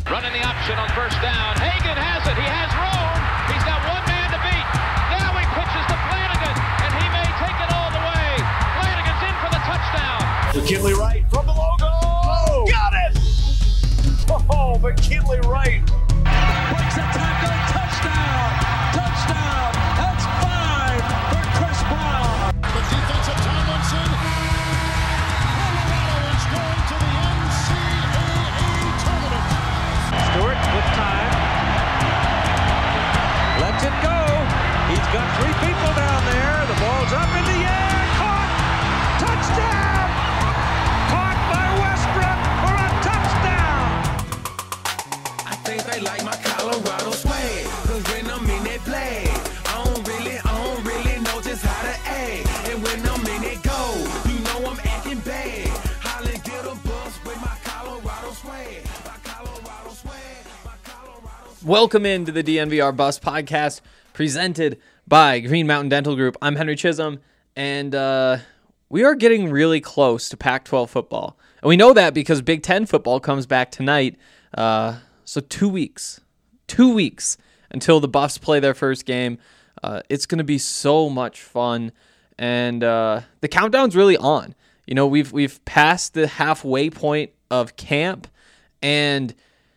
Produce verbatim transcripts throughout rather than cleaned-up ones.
Running the option on first down. Hagan has it. He has room. He's got one man to beat. Now he pitches to Flanagan, and he may take it all the way. Flanagan's in for the touchdown. McKinley Wright from the logo. Oh, got it! Oh, McKinley Wright. Breaks a tackle. Touchdown. Touchdown. That's five for Chris Brown. The defensive Tomlinson. Colorado is going to the N C double A tournament. Stewart with time. Lets it go. He's got three people down there. The ball's up in the air. Caught. Touchdown. Caught by Westbrook for a touchdown. I think they like my Colorado swag. Cause when I'm in that play, I don't really, I don't really know just how to act. And when I'm in it go, you know I'm acting bad. Holly get a bus with my Colorado swag. My Colorado swag. My Colorado swag. Welcome into the D N V R Bus Podcast, presented by Green Mountain Dental Group. I'm Henry Chisholm, and uh, we are getting really close to Pac twelve football. And we know that because Big Ten football comes back tonight. Uh, so two weeks, two weeks until the Buffs play their first game. Uh, it's going to be so much fun, and uh, the countdown's really on. You know, we've we've passed the halfway point of camp, and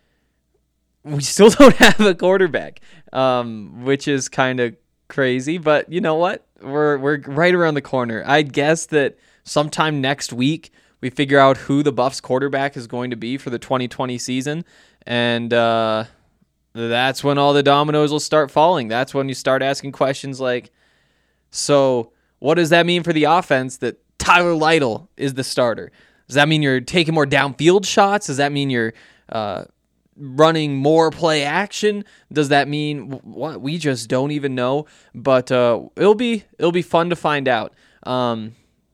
we still don't have a quarterback, um, which is kind of crazy. But you know what? We're we're right around the corner. I'd guess that sometime next week we figure out who the Buffs quarterback is going to be for the twenty twenty season, and uh, that's when all the dominoes will start falling. That's when you start asking questions like, so what does that mean for the offense that Tyler Lytle is the starter? Does that mean you're taking more downfield shots? Does that mean you're uh, running more play action? Does that mean what? We just don't even know. But uh, it'll be it'll be fun to find out. Um,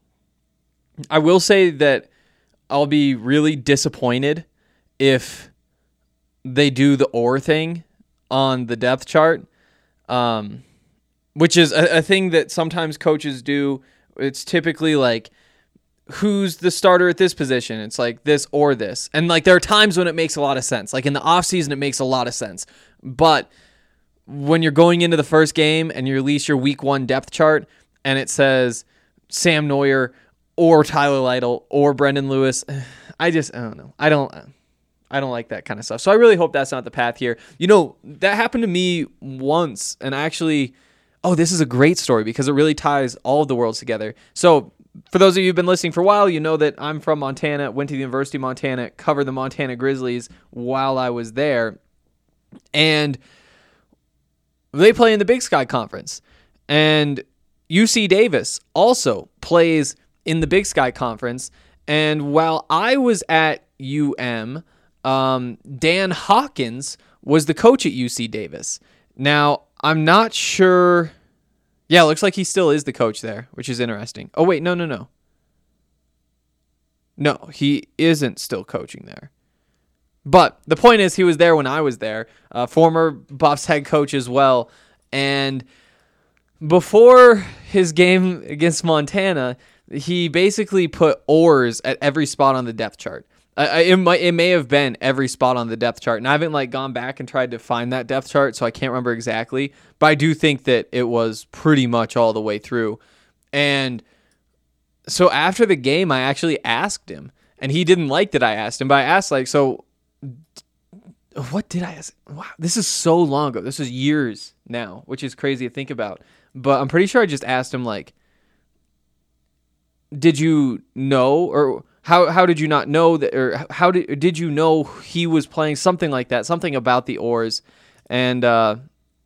I will say that I'll be really disappointed if they do the or thing on the depth chart, um, which is a, a thing that sometimes coaches do. It's typically like, who's the starter at this position? It's like this or this. And like there are times when it makes a lot of sense. Like in the offseason, it makes a lot of sense. But when you're going into the first game and you release your week one depth chart and it says Sam Neuer or Tyler Lytle or Brendan Lewis, I just, I don't know. I don't, I don't like that kind of stuff. So I really hope that's not the path here. You know, that happened to me once, and I actually, oh, this is a great story because it really ties all of the worlds together. So for those of you who've been listening for a while, you know that I'm from Montana, went to the University of Montana, covered the Montana Grizzlies while I was there, and they play in the Big Sky Conference. And U C Davis also plays in the Big Sky Conference. And while I was at U M, um, Dan Hawkins was the coach at U C Davis. Now, I'm not sure. Yeah, it looks like he still is the coach there, which is interesting. Oh, wait, no, no, no. No, he isn't still coaching there. But the point is, he was there when I was there, uh, former Buffs head coach as well. And before his game against Montana, he basically put oars at every spot on the depth chart. Uh, it might, it may have been every spot on the depth chart, and I haven't like gone back and tried to find that depth chart, so I can't remember exactly. But I do think that it was pretty much all the way through. And so after the game, I actually asked him, and he didn't like that I asked him. But I asked like, so what did I ask? Wow, this is so long ago. This is years now, which is crazy to think about. But I'm pretty sure I just asked him like, did you know, or how how did you not know that, or how did did you know he was playing, something like that, something about the oars, and uh,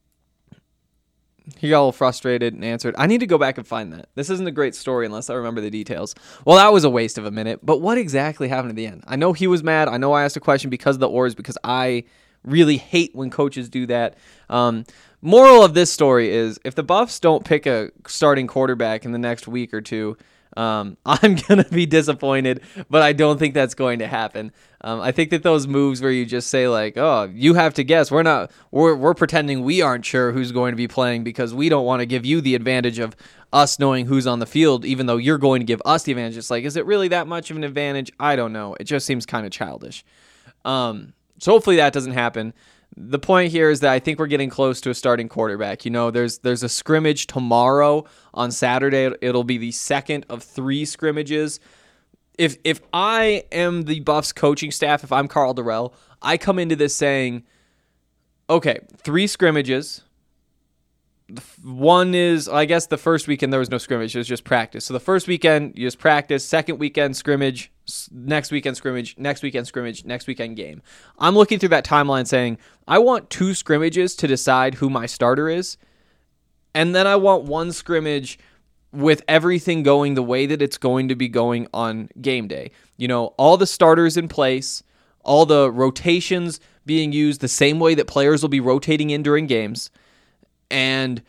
he got a little frustrated and answered, I need to go back and find that. This isn't a great story unless I remember the details. Well, that was a waste of a minute, but what exactly happened at the end? I know he was mad. I know I asked a question because of the oars, because I really hate when coaches do that. Um, moral of this story is, if the Buffs don't pick a starting quarterback in the next week or two, Um, I'm going to be disappointed, but I don't think that's going to happen. Um, I think that those moves where you just say like, oh, you have to guess, we're not, we're, we're pretending we aren't sure who's going to be playing because we don't want to give you the advantage of us knowing who's on the field, even though you're going to give us the advantage. It's like, is it really that much of an advantage? I don't know. It just seems kind of childish. Um, So hopefully that doesn't happen. The point here is that I think we're getting close to a starting quarterback. You know, there's there's a scrimmage tomorrow on Saturday. It'll be the second of three scrimmages. If if I am the Buffs coaching staff, if I'm Karl Dorrell, I come into this saying, okay, three scrimmages. One is, I guess the first weekend there was no scrimmage, it was just practice. So the first weekend, you just practice, second weekend scrimmage, next weekend scrimmage, next weekend scrimmage, next weekend game. I'm looking through that timeline saying, I want two scrimmages to decide who my starter is, and then I want one scrimmage with everything going the way that it's going to be going on game day. You know, all the starters in place, all the rotations being used the same way that players will be rotating in during games. And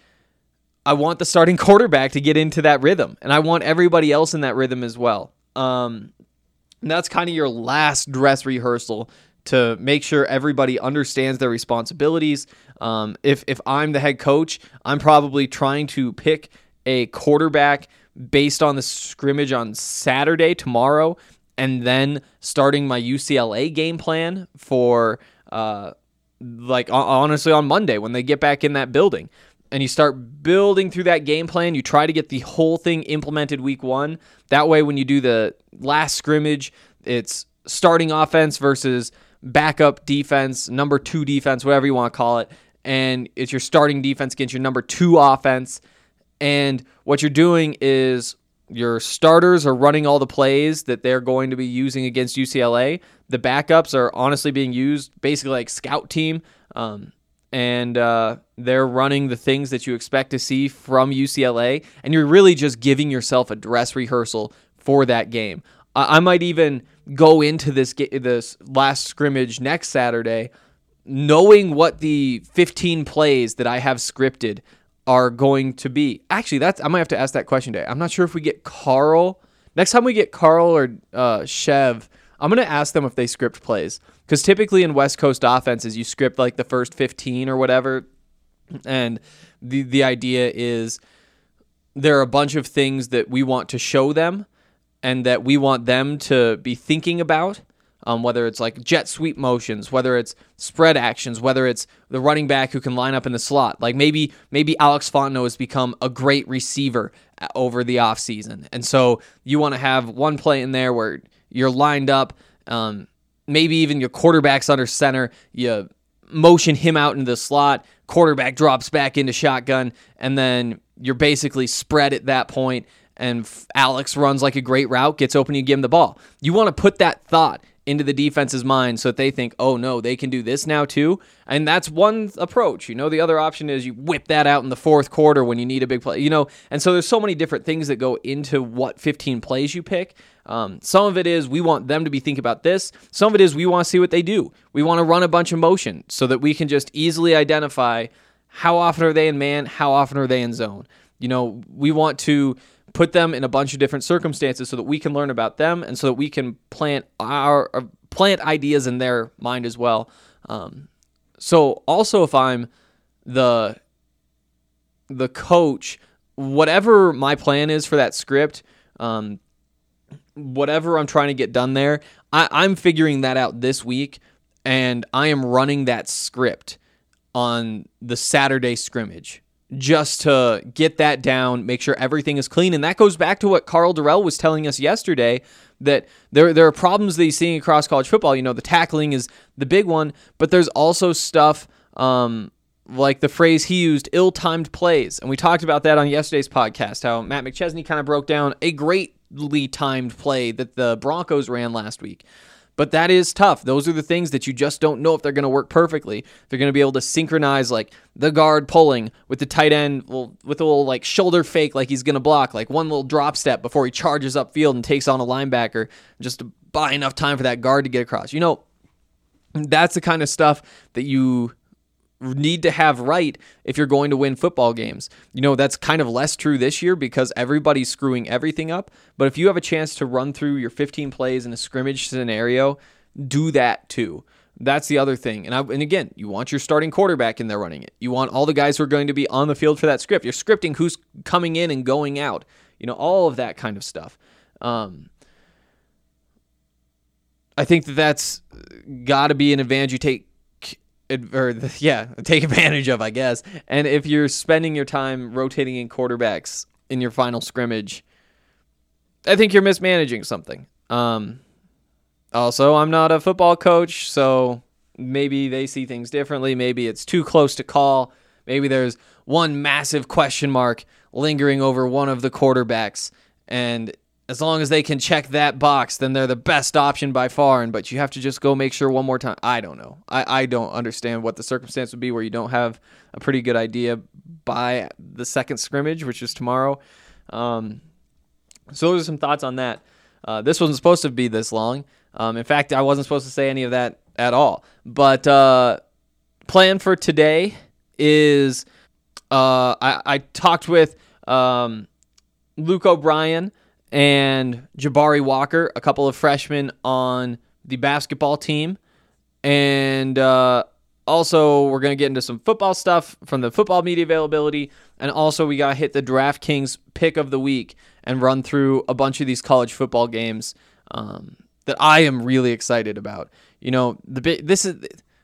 I want the starting quarterback to get into that rhythm. And I want everybody else in that rhythm as well. Um, and that's kind of your last dress rehearsal to make sure everybody understands their responsibilities. Um, if, if I'm the head coach, I'm probably trying to pick a quarterback based on the scrimmage on Saturday, tomorrow, and then starting my U C L A game plan for uh like honestly on Monday when they get back in that building. And you start building through that game plan. You try to get the whole thing implemented week one. That way when you do the last scrimmage, it's starting offense versus backup defense, number two defense, whatever you want to call it. And it's your starting defense against your number two offense. And what you're doing is your starters are running all the plays that they're going to be using against U C L A. The backups are honestly being used basically like scout team, um, and uh, they're running the things that you expect to see from U C L A, and you're really just giving yourself a dress rehearsal for that game. I, I might even go into this ga- this last scrimmage next Saturday knowing what the fifteen plays that I have scripted are going to be. Actually, that's I might have to ask that question today. I'm not sure if we get Karl. Next time we get Karl or uh, Chev, I'm going to ask them if they script plays. Because typically in West Coast offenses, you script like the first fifteen or whatever. And the the idea is there are a bunch of things that we want to show them and that we want them to be thinking about. Um, whether it's like jet sweep motions, whether it's spread actions, whether it's the running back who can line up in the slot. Like maybe maybe Alex Fontenot has become a great receiver over the offseason. And so you want to have one play in there where you're lined up, um, maybe even your quarterback's under center, you motion him out into the slot, quarterback drops back into shotgun, and then you're basically spread at that point, and Alex runs like a great route, gets open, you give him the ball. You want to put that thought into the defense's mind so that they think, oh no, they can do this now too. And that's one approach. You know, the other option is you whip that out in the fourth quarter when you need a big play, you know, and so there's so many different things that go into what fifteen plays you pick. Um, some of it is we want them to be thinking about this. Some of it is we want to see what they do. We want to run a bunch of motion so that we can just easily identify how often are they in man, how often are they in zone. You know, we want to put them in a bunch of different circumstances so that we can learn about them and so that we can plant our uh, plant ideas in their mind as well. Um, so also if I'm the the coach, whatever my plan is for that script, um, whatever I'm trying to get done there, I, I'm figuring that out this week, and I am running that script on the Saturday scrimmage, just to get that down, make sure everything is clean. And that goes back to what Karl Dorrell was telling us yesterday, that there, there are problems that he's seeing across college football. You know, the tackling is the big one, but there's also stuff um, like the phrase he used, ill-timed plays. And we talked about that on yesterday's podcast, how Matt McChesney kind of broke down a greatly timed play that the Broncos ran last week. But that is tough. Those are the things that you just don't know if they're going to work perfectly. They're going to be able to synchronize like the guard pulling with the tight end well, with a little like shoulder fake like he's going to block, like one little drop step before he charges upfield and takes on a linebacker just to buy enough time for that guard to get across. You know, that's the kind of stuff that you need to have right if you're going to win football games. You know, that's kind of less true this year because everybody's screwing everything up. But if you have a chance to run through your fifteen plays in a scrimmage scenario, do that too. That's the other thing. And I, and again, you want your starting quarterback in there running it. You want all the guys who are going to be on the field for that script. You're scripting who's coming in and going out. You know, all of that kind of stuff. Um, I think that that's got to be an advantage you take, or yeah, take advantage of, I guess. And if you're spending your time rotating in quarterbacks in your final scrimmage, I think you're mismanaging something. Um, also, I'm not a football coach, so maybe they see things differently. Maybe it's too close to call. Maybe there's one massive question mark lingering over one of the quarterbacks, and as long as they can check that box, then they're the best option by far. And but you have to just go make sure one more time. I don't know. I, I don't understand what the circumstance would be where you don't have a pretty good idea by the second scrimmage, which is tomorrow. Um, so those are some thoughts on that. Uh, this wasn't supposed to be this long. Um, in fact, I wasn't supposed to say any of that at all. But uh, plan for today is uh, I, I talked with um, Luke O'Brien and Jabari Walker, a couple of freshmen on the basketball team. And uh, also, we're going to get into some football stuff from the football media availability. And also, we got to hit the DraftKings pick of the week and run through a bunch of these college football games um, that I am really excited about. You know, the this is,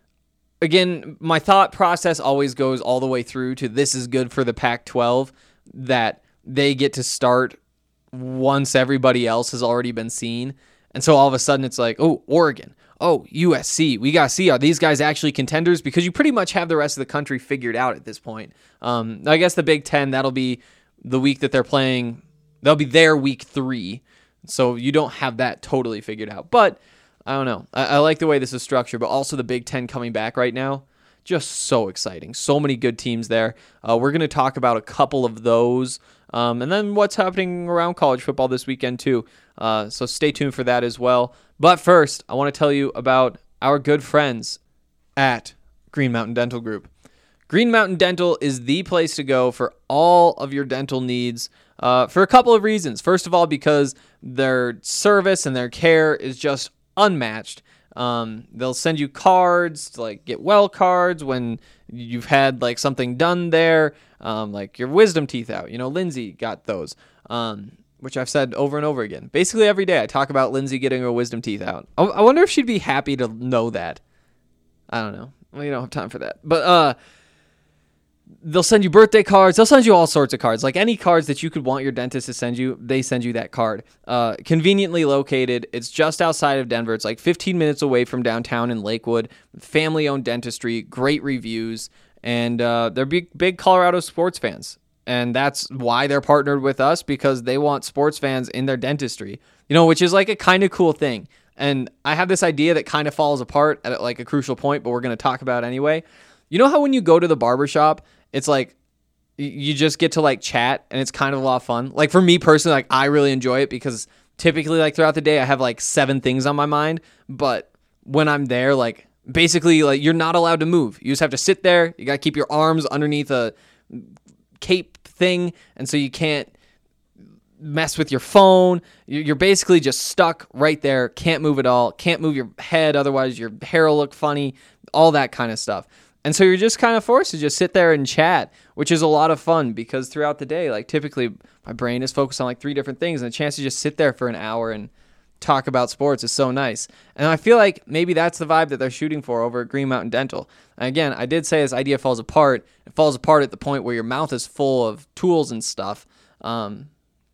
again, my thought process always goes all the way through to this is good for the Pac twelve, that they get to start once everybody else has already been seen. And so all of a sudden it's like, oh, Oregon, oh, U S C, we got to see, are these guys actually contenders? Because you pretty much have the rest of the country figured out at this point. Um, I guess the Big Ten, that'll be the week that they're playing. They'll be their week three. So you don't have that totally figured out. But I don't know. I, I like the way this is structured, but also the Big Ten coming back right now. Just so exciting. So many good teams there. Uh, we're going to talk about a couple of those. Um, and then what's happening around college football this weekend too. Uh, so stay tuned for that as well. But first, I want to tell you about our good friends at Green Mountain Dental Group. Green Mountain Dental is the place to go for all of your dental needs uh, for a couple of reasons. First of all, because their service and their care is just unmatched. Um, they'll send you cards, to, like get well cards when you've had like something done there, um, like your wisdom teeth out. You know, Lindsay got those, um, which I've said over and over again. Basically every day I talk about Lindsay getting her wisdom teeth out. I, I wonder if she'd be happy to know that. I don't know. We don't have time for that. But uh, they'll send you birthday cards. They'll send you all sorts of cards. Like any cards that you could want your dentist to send you, they send you that card. Uh, conveniently located. It's just outside of Denver. It's like fifteen minutes away from downtown in Lakewood. Family-owned dentistry. Great reviews. And uh, they're big, big Colorado sports fans. And that's why they're partnered with us, because they want sports fans in their dentistry. You know, which is like a kind of cool thing. And I have this idea that kind of falls apart at like a crucial point, but we're going to talk about it anyway. You know how when you go to the barbershop, it's like you just get to like chat and it's kind of a lot of fun. Like for me personally, like I really enjoy it because typically like throughout the day I have like seven things on my mind. But when I'm there, like basically like you're not allowed to move. You just have to sit there. You got to keep your arms underneath a cape thing. And so you can't mess with your phone. You're basically just stuck right there. Can't move at all. Can't move your head. Otherwise your hair will look funny. All that kind of stuff. And so you're just kind of forced to just sit there and chat, which is a lot of fun because throughout the day, like typically my brain is focused on like three different things, and the chance to just sit there for an hour and talk about sports is so nice. And I feel like maybe that's the vibe that they're shooting for over at Green Mountain Dental. And again, I did say this idea falls apart. It falls apart at the point where your mouth is full of tools and stuff. Um,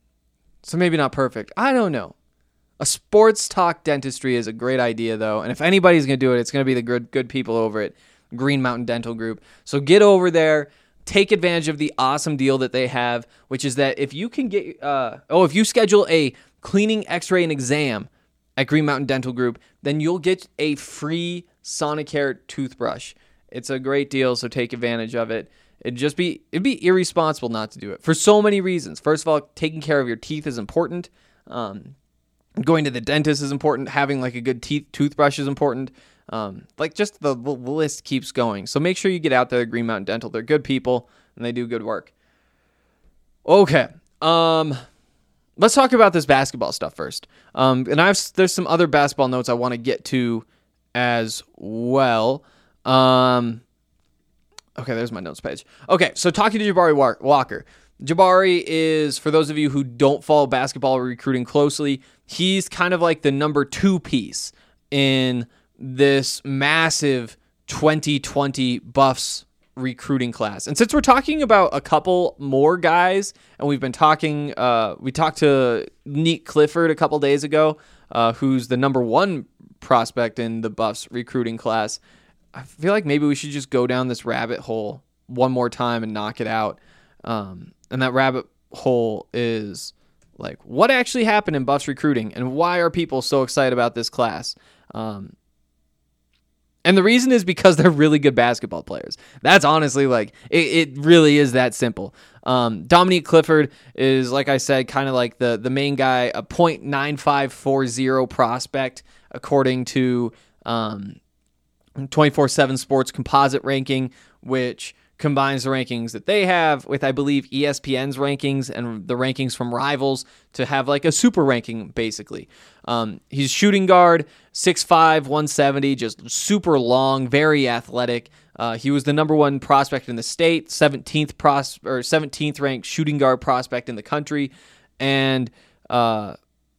so maybe not perfect. I don't know. A sports talk dentistry is a great idea though. And if anybody's going to do it, it's going to be the good, good people over it. Green Mountain Dental Group. So get over there, take advantage of the awesome deal that they have, which is that if you can get, uh, oh, if you schedule a cleaning, x-ray, and exam at Green Mountain Dental Group, then you'll get a free Sonicare toothbrush. It's a great deal, so take advantage of it. It'd just be, it'd be irresponsible not to do it for so many reasons. First of all, taking care of your teeth is important. Um, going to the dentist is important. Having like a good teeth toothbrush is important. Um, like just the, the list keeps going. So make sure you get out there at Green Mountain Dental. They're good people and they do good work. Okay. Um, let's talk about this basketball stuff first. Um, and I've, there's some other basketball notes I want to get to as well. Um, okay. There's my notes page. Okay. So talking to Jabari Walker. Jabari is, for those of you who don't follow basketball recruiting closely, he's kind of like the number two piece in this massive twenty twenty Buffs recruiting class. And since we're talking about a couple more guys, and we've been talking, uh, we talked to Neat Clifford a couple days ago, uh, who's the number one prospect in the Buffs recruiting class. I feel like maybe we should just go down this rabbit hole one more time and knock it out. Um, and that rabbit hole is like, what actually happened in Buffs recruiting, and why are people so excited about this class? Um, And the reason is because they're really good basketball players. That's honestly like, it, it really is that simple. Um, Dominique Clifford is, like I said, kind of like the, the main guy, a point nine five four zero prospect, according to um, twenty-four seven Sports composite ranking, which combines the rankings that they have with, I believe, E S P N's rankings and the rankings from Rivals to have like a super ranking, basically. Um, he's shooting guard, six five, one seventy, just super long, very athletic. Uh, he was the number one prospect in the state, seventeenth pros or seventeenth ranked shooting guard prospect in the country, and uh,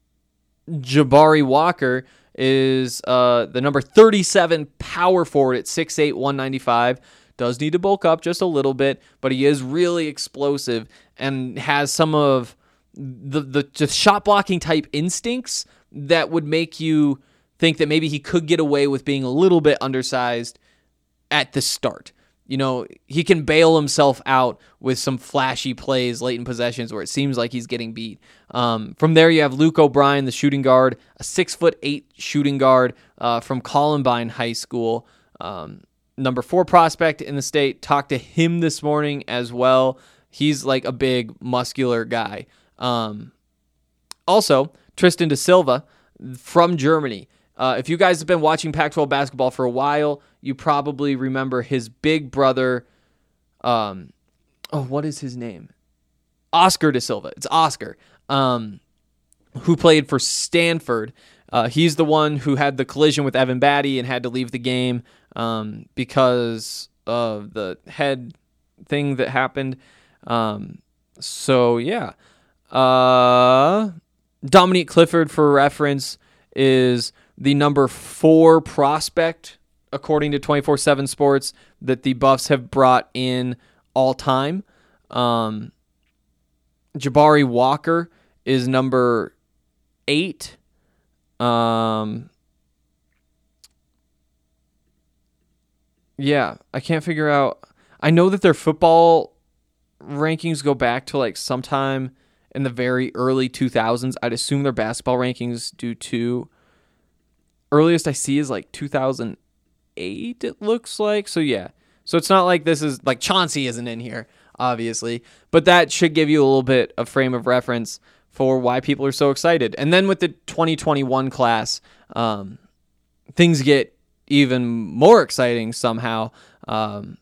Jabari Walker is uh, the number thirty-seven power forward at six eight, one ninety-five. Does need to bulk up just a little bit, but he is really explosive and has some of the the just shot blocking type instincts that would make you think that maybe he could get away with being a little bit undersized at the start. You know, he can bail himself out with some flashy plays late in possessions where it seems like he's getting beat. Um, from there, you have Luke O'Brien, the shooting guard, a six foot eight shooting guard uh, from Columbine High School. Um, Number four prospect in the state. Talked to him this morning as well. He's like a big muscular guy. Um, also, Tristan da Silva from Germany. Uh, if you guys have been watching Pac twelve basketball for a while, you probably remember his big brother. Um, oh, what is his name? Oscar da Silva. It's Oscar, um, who played for Stanford. Uh, he's the one who had the collision with Evan Batty and had to leave the game um, because of the head thing that happened. Um, so, yeah. Uh, Dominique Clifford, for reference, is the number four prospect, according to twenty-four seven Sports, that the Buffs have brought in all time. Um, Jabari Walker is number eight. Um, yeah, I can't figure out. I know that their football rankings go back to like sometime in the very early two thousands. I'd assume their basketball rankings do too. Earliest I see is like two thousand eight, it looks like. So yeah. So it's not like this is like Chauncey isn't in here, obviously, but that should give you a little bit of frame of reference for why people are so excited. And then with the twenty twenty-one class, um, things get even more exciting somehow, um,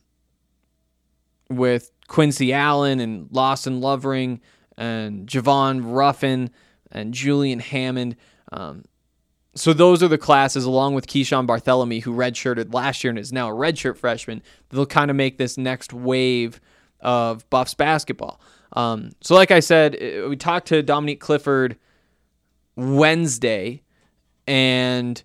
with Quincy Allen and Lawson Lovering and Javon Ruffin and Julian Hammond. Um, so those are the classes, along with Keyshawn Barthélemy, who redshirted last year and is now a redshirt freshman. They'll kind of make this next wave of Buffs basketball. Um, so like I said, we talked to Dominique Clifford Wednesday, and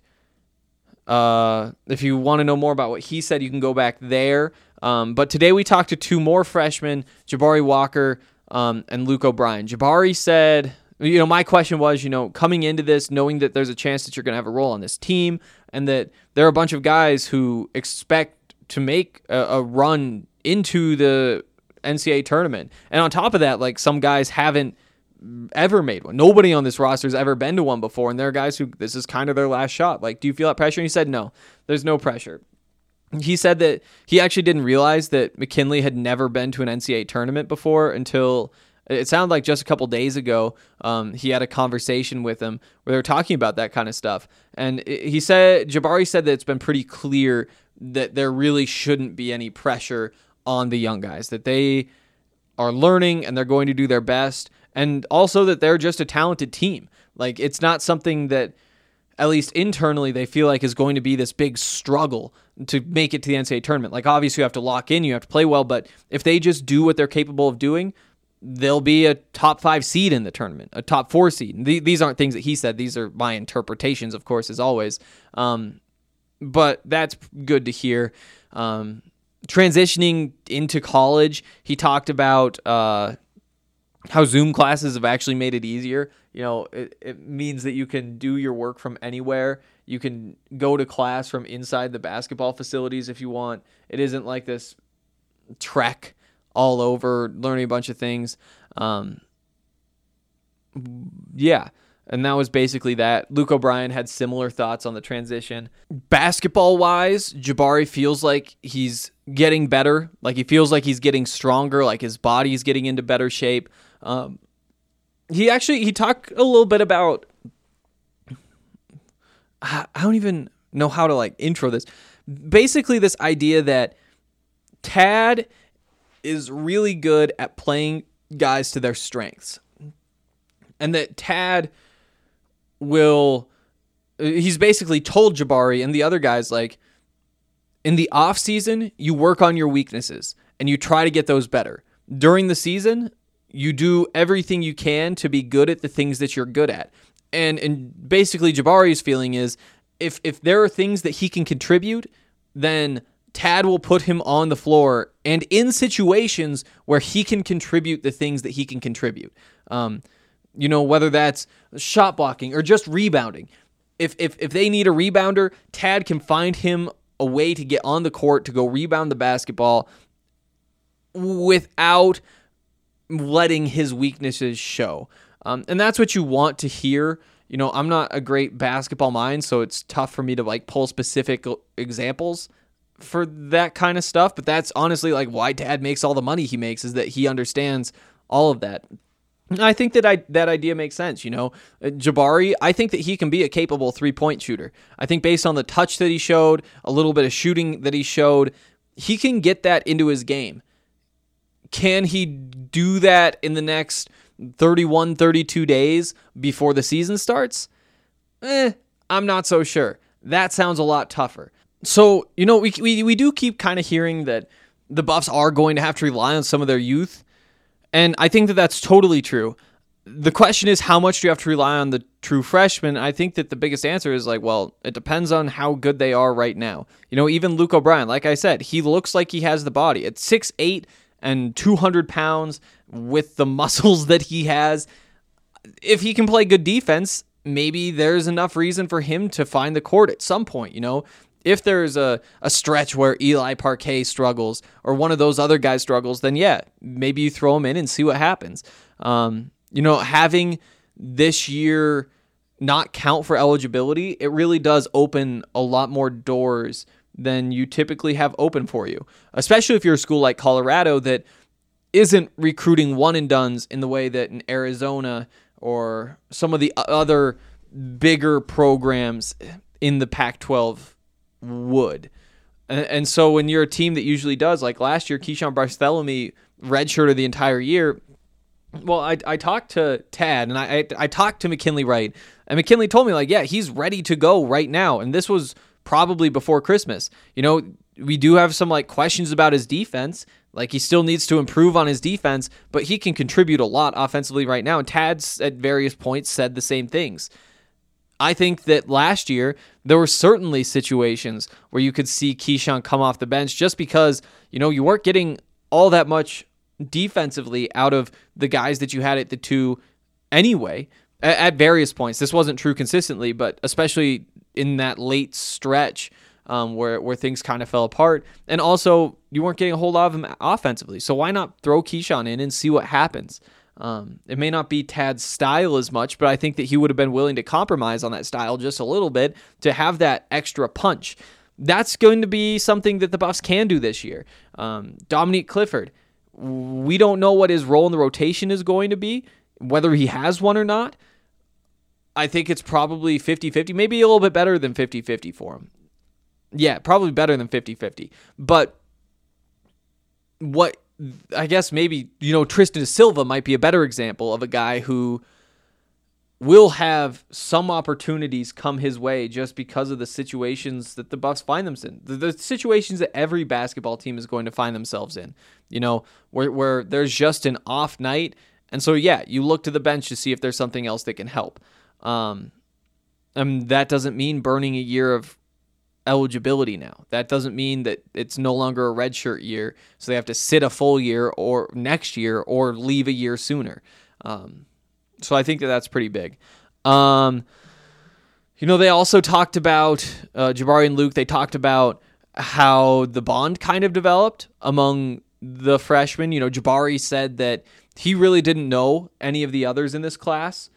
uh, if you want to know more about what he said, you can go back there. Um, but today we talked to two more freshmen, Jabari Walker um, and Luke O'Brien. Jabari said, you know, my question was, you know, coming into this, knowing that there's a chance that you're going to have a role on this team and that there are a bunch of guys who expect to make a, a run into the N C double A tournament. And on top of that, like, some guys haven't ever made one. Nobody on this roster has ever been to one before. And there are guys who this is kind of their last shot. Like, do you feel that pressure? And he said, no, there's no pressure. He said that he actually didn't realize that McKinley had never been to an N C double A tournament before until it sounded like just a couple days ago. Um, he had a conversation with him where they were talking about that kind of stuff. And he said, Jabari said that it's been pretty clear that there really shouldn't be any pressure on the young guys, that they are learning and they're going to do their best. And also that they're just a talented team. Like, it's not something that, at least internally, they feel like is going to be this big struggle to make it to the N C double A tournament. Like, obviously you have to lock in, you have to play well, but if they just do what they're capable of doing, they'll be a top five seed in the tournament, a top four seed. These aren't things that he said. These are my interpretations, of course, as always. Um, but that's good to hear. Um, transitioning into college, he talked about uh, how Zoom classes have actually made it easier. You know, it, it means that you can do your work from anywhere. You can go to class from inside the basketball facilities if you want. It isn't like this trek all over, learning a bunch of things. Um, yeah, and that was basically that. Luke O'Brien had similar thoughts on the transition. Basketball-wise, Jabari feels like he's getting better. Like he feels like he's getting stronger, like his body's getting into better shape. Um, he actually, he talked a little bit about, I don't even know how to like intro this. Basically this idea that Tad is really good at playing guys to their strengths. And that Tad will, he's basically told Jabari and the other guys, like, in the off season, you work on your weaknesses and you try to get those better. During the season, you do everything you can to be good at the things that you're good at. And and basically Jabari's feeling is if if there are things that he can contribute, then Tad will put him on the floor and in situations where he can contribute the things that he can contribute. Um, you know, whether that's shot blocking or just rebounding. If if if they need a rebounder, Tad can find him a way to get on the court to go rebound the basketball without letting his weaknesses show. Um, and that's what you want to hear. You know, I'm not a great basketball mind, so it's tough for me to like pull specific examples for that kind of stuff. But that's honestly like why Tad makes all the money he makes, is that he understands all of that. And I think that I that idea makes sense. You know, Jabari, I think that he can be a capable three-point shooter. I think based on the touch that he showed, a little bit of shooting that he showed, he can get that into his game. Can he do that in the next thirty-one, thirty-two days before the season starts? Eh, I'm not so sure. That sounds a lot tougher. So, you know, we we, we do keep kind of hearing that the Buffs are going to have to rely on some of their youth, and I think that that's totally true. The question is, how much do you have to rely on the true freshmen? I think that the biggest answer is like, well, it depends on how good they are right now. You know, even Luke O'Brien, like I said, he looks like he has the body. At six eight and two hundred pounds with the muscles that he has, if he can play good defense, maybe there's enough reason for him to find the court at some point. You know, if there's a, a stretch where Eli Parquet struggles or one of those other guys struggles, then yeah, maybe you throw him in and see what happens. Um, you know, having this year not count for eligibility, it really does open a lot more doors than you typically have open for you, especially if you're a school like Colorado that isn't recruiting one and dones in the way that in Arizona or some of the other bigger programs in the Pac twelve would. And, and so when you're a team that usually does, like last year, Keyshawn Bartholomew redshirted the entire year. Well, I I talked to Tad and I, I I talked to McKinley Wright, and McKinley told me like, yeah, he's ready to go right now. And this was probably before Christmas. You know, we do have some like questions about his defense. Like he still needs to improve on his defense, but he can contribute a lot offensively right now. And Tad's at various points said the same things. I think that last year there were certainly situations where you could see Keyshawn come off the bench just because, you know, you weren't getting all that much defensively out of the guys that you had at the two anyway, at, at various points. This wasn't true consistently, but especially in that late stretch um, where, where things kind of fell apart. And also, you weren't getting a whole lot of them offensively. So why not throw Keyshawn in and see what happens? Um, it may not be Tad's style as much, but I think that he would have been willing to compromise on that style just a little bit to have that extra punch. That's going to be something that the Buffs can do this year. Um, Dominique Clifford, we don't know what his role in the rotation is going to be, whether he has one or not. I think it's probably fifty-fifty, maybe a little bit better than fifty-fifty for him. Yeah, probably better than fifty-fifty. But what I guess maybe, you know, Tristan Silva might be a better example of a guy who will have some opportunities come his way just because of the situations that the Bucks find themselves in. The, the situations that every basketball team is going to find themselves in, you know, where, where there's just an off night. And so, yeah, you look to the bench to see if there's something else that can help. Um, and that doesn't mean burning a year of eligibility now. That doesn't mean that it's no longer a redshirt year, so they have to sit a full year or next year or leave a year sooner. Um, so I think that that's pretty big. Um, you know, they also talked about, uh, Jabari and Luke, they talked about how the bond kind of developed among the freshmen. You know, Jabari said that he really didn't know any of the others in this class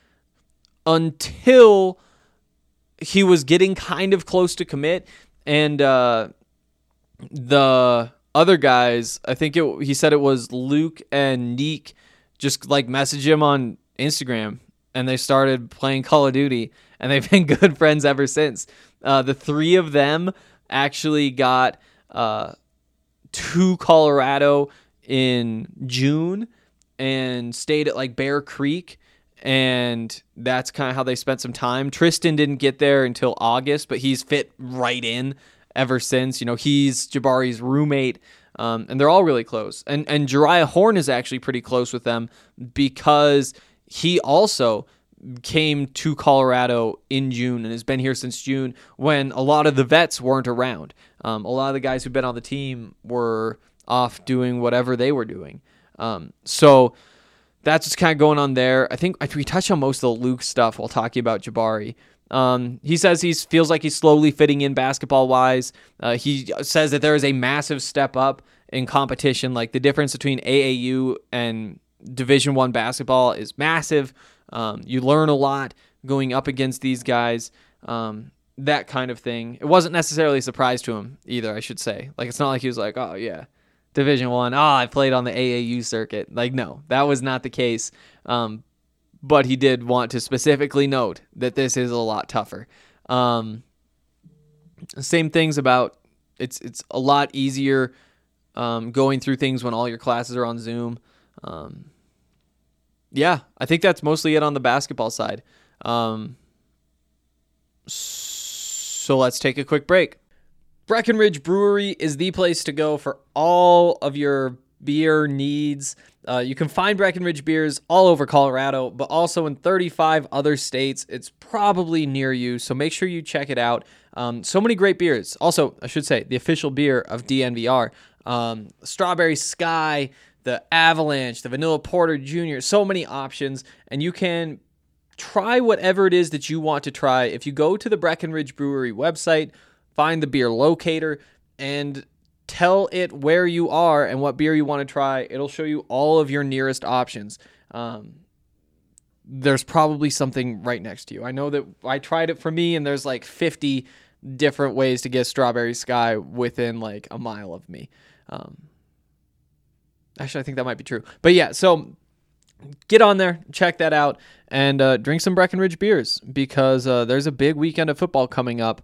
until he was getting kind of close to commit, and uh, the other guys, I think it, he said it was Luke and Neek, just like messaged him on Instagram, and they started playing Call of Duty, and they've been good friends ever since. Uh, the three of them actually got uh, to Colorado in June and stayed at like Bear Creek, and that's kind of how they spent some time. Tristan didn't get there until August, but he's fit right in ever since. You know, he's Jabari's roommate, um, and they're all really close. And and Jariah Horn is actually pretty close with them because he also came to Colorado in June and has been here since June when a lot of the vets weren't around. Um, a lot of the guys who've been on the team were off doing whatever they were doing. Um, so that's what's kind of going on there. I think we touched on most of the Luke stuff while talking about Jabari. Um, he says he feels like he's slowly fitting in basketball-wise. Uh, he says that there is a massive step up in competition. Like the difference between A A U and Division One basketball is massive. Um, you learn a lot going up against these guys, um, that kind of thing. It wasn't necessarily a surprise to him either, I should say. Like, it's not like he was like, oh, yeah, Division One. Oh, I played on the A A U circuit. Like, no, that was not the case. Um, but he did want to specifically note that this is a lot tougher. Um, same things about it's it's a lot easier um, going through things when all your classes are on Zoom. Um, yeah, I think that's mostly it on the basketball side. Um, so let's take a quick break. Breckenridge Brewery is the place to go for all of your beer needs. Uh, you can find Breckenridge beers all over Colorado, but also in thirty-five other states. It's probably near you, so make sure you check it out. Um, so many great beers. Also, I should say, the official beer of D N V R. Um, Strawberry Sky, the Avalanche, the Vanilla Porter Junior So many options, and you can try whatever it is that you want to try. If you go to the Breckenridge Brewery website, find the beer locator, and tell it where you are and what beer you want to try. It'll show you all of your nearest options. Um, there's probably something right next to you. I know that I tried it for me, and there's like fifty different ways to get Strawberry Sky within like a mile of me. Um, actually, I think that might be true. But yeah, so get on there, check that out, and uh, drink some Breckenridge beers because uh, there's a big weekend of football coming up,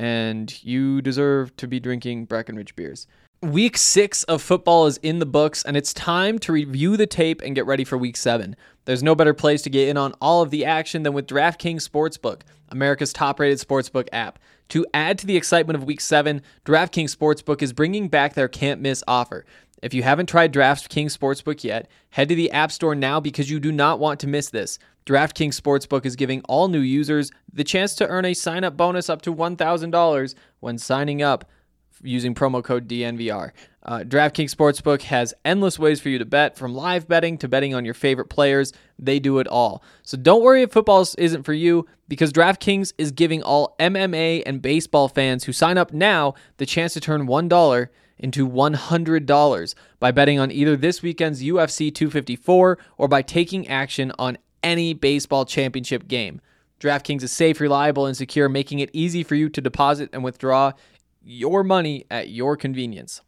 and you deserve to be drinking Breckenridge beers. Week six of football is in the books, and it's time to review the tape and get ready for week seven. There's no better place to get in on all of the action than with DraftKings Sportsbook, America's top-rated sportsbook app. To add to the excitement of week seven, DraftKings Sportsbook is bringing back their can't-miss offer. If you haven't tried DraftKings Sportsbook yet, head to the App Store now because you do not want to miss this. DraftKings Sportsbook is giving all new users the chance to earn a sign-up bonus up to one thousand dollars when signing up using promo code D N V R. Uh, DraftKings Sportsbook has endless ways for you to bet, from live betting to betting on your favorite players. They do it all. So don't worry if football isn't for you, because DraftKings is giving all M M A and baseball fans who sign up now the chance to turn one dollar into one hundred dollars by betting on either this weekend's U F C two fifty-four or by taking action on any baseball championship game. DraftKings is safe, reliable, and secure, making it easy for you to deposit and withdraw your money at your convenience.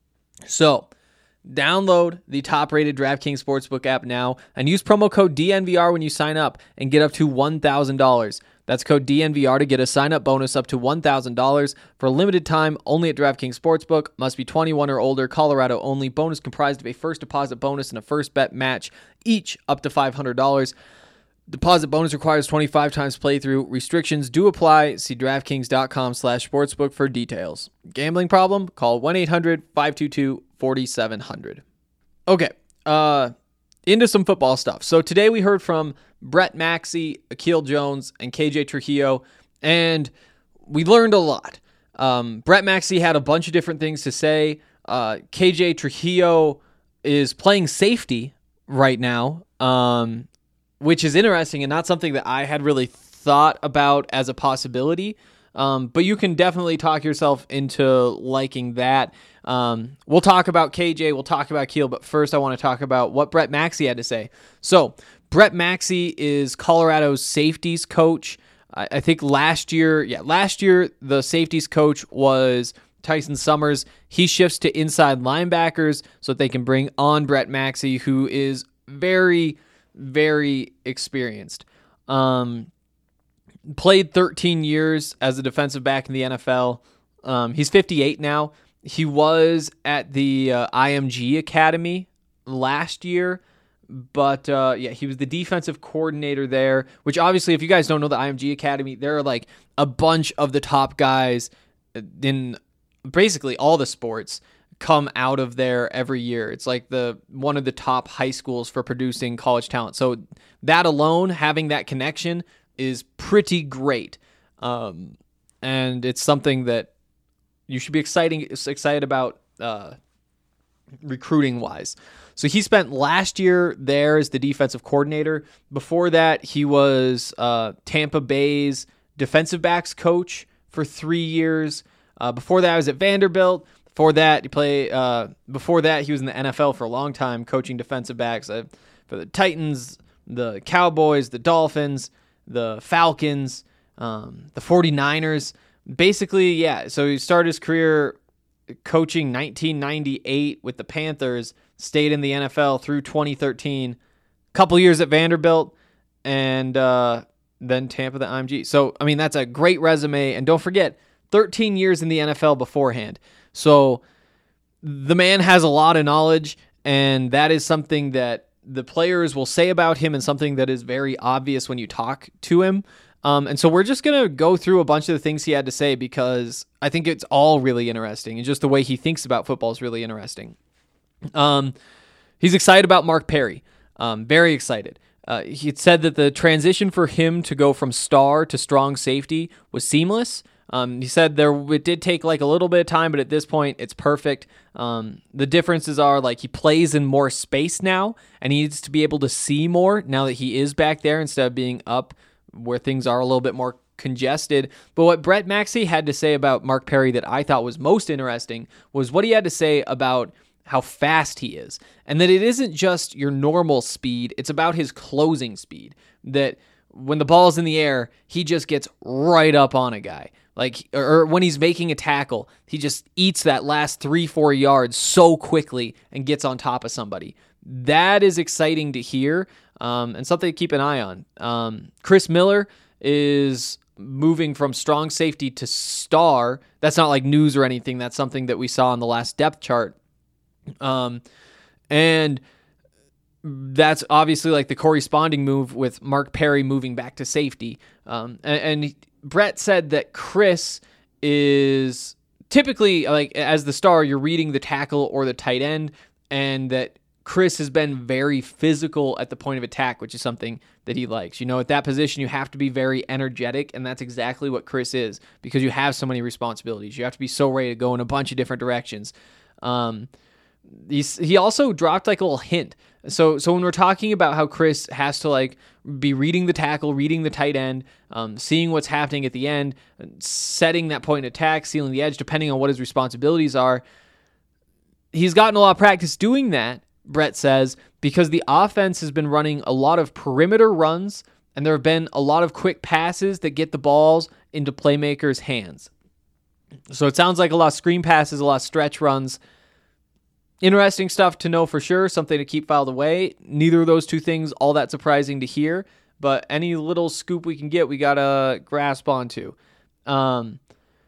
So, download the top-rated DraftKings Sportsbook app now and use promo code D N V R when you sign up and get up to one thousand dollars. That's code D N V R to get a sign-up bonus up to one thousand dollars for a limited time only at DraftKings Sportsbook. Must be twenty-one or older, Colorado only. Bonus comprised of a first deposit bonus and a first bet match, each up to five hundred dollars. Deposit bonus requires twenty-five times playthrough. Restrictions do apply. See DraftKings.com slash sportsbook for details. Gambling problem? Call one eight hundred five two two four seven zero zero. Okay, uh, into some football stuff. So today we heard from Brett Maxey, Akil Jones, and K J Trujillo, and we learned a lot. Um, Brett Maxey had a bunch of different things to say. Uh, K J Trujillo is playing safety right now, um, which is interesting and not something that I had really thought about as a possibility. Um, but you can definitely talk yourself into liking that. Um, we'll talk about K J, we'll talk about Keel, but first I want to talk about what Brett Maxey had to say. So, Brett Maxey is Colorado's safeties coach. I, I think last year, yeah, last year the safeties coach was Tyson Summers. He shifts to inside linebackers so that they can bring on Brett Maxey, who is very, very experienced. Um, played thirteen years as a defensive back in the N F L. Um, he's fifty-eight now. He was at the uh, I M G Academy last year, but uh, yeah, he was the defensive coordinator there, which obviously, if you guys don't know the I M G Academy, there are like a bunch of the top guys in basically all the sports come out of there every year. It's like the one of the top high schools for producing college talent. So that alone, having that connection is pretty great. Um, and it's something that you should be exciting, excited about uh, recruiting-wise. So he spent last year there as the defensive coordinator. Before that, he was uh, Tampa Bay's defensive backs coach for three years. Uh, before that, I was at Vanderbilt. Before that, he played. Uh, before that, he was in the N F L for a long time, coaching defensive backs uh, for the Titans, the Cowboys, the Dolphins, the Falcons, um, the 49ers. Basically, yeah. So he started his career coaching nineteen ninety-eight with the Panthers, stayed in the N F L through twenty thirteen, couple years at Vanderbilt, and uh, then Tampa, the I M G. So, I mean, that's a great resume. And don't forget, thirteen years in the N F L beforehand. So the man has a lot of knowledge, and that is something that the players will say about him and something that is very obvious when you talk to him. Um, and so we're just going to go through a bunch of the things he had to say because I think it's all really interesting, and just the way he thinks about football is really interesting. Um, he's excited about Mark Perry. Um, very excited. Uh, he said that the transition for him to go from star to strong safety was seamless. Um, he said there it did take like a little bit of time, but at this point it's perfect. Um, the differences are like he plays in more space now, and he needs to be able to see more now that he is back there instead of being up where things are a little bit more congested. But what Brett Maxey had to say about Mark Perry that I thought was most interesting was what he had to say about how fast he is, and that it isn't just your normal speed, it's about his closing speed, that when the ball's in the air, he just gets right up on a guy. Like, or when he's making a tackle, he just eats that last three, four yards so quickly and gets on top of somebody. That is exciting to hear, um, and something to keep an eye on. Um, Chris Miller is moving from strong safety to star. That's not like news or anything. That's something that we saw on the last depth chart. Um, and that's obviously like the corresponding move with Mark Perry moving back to safety. Um, and, and he, Brett said that Chris is typically, like, as the star, you're reading the tackle or the tight end, and that Chris has been very physical at the point of attack, which is something that he likes. You know, at that position, you have to be very energetic, and that's exactly what Chris is, because you have so many responsibilities. You have to be so ready to go in a bunch of different directions. Um, he's, he also dropped like a little hint. So so when we're talking about how Chris has to like be reading the tackle, reading the tight end, um, seeing what's happening at the end, setting that point of attack, sealing the edge, depending on what his responsibilities are, he's gotten a lot of practice doing that, Brett says, because the offense has been running a lot of perimeter runs, and there have been a lot of quick passes that get the balls into playmakers' hands. So it sounds like a lot of screen passes, a lot of stretch runs. Interesting stuff to know for sure, something to keep filed away. Neither of those two things all that surprising to hear, but any little scoop we can get, we got to grasp onto. Um,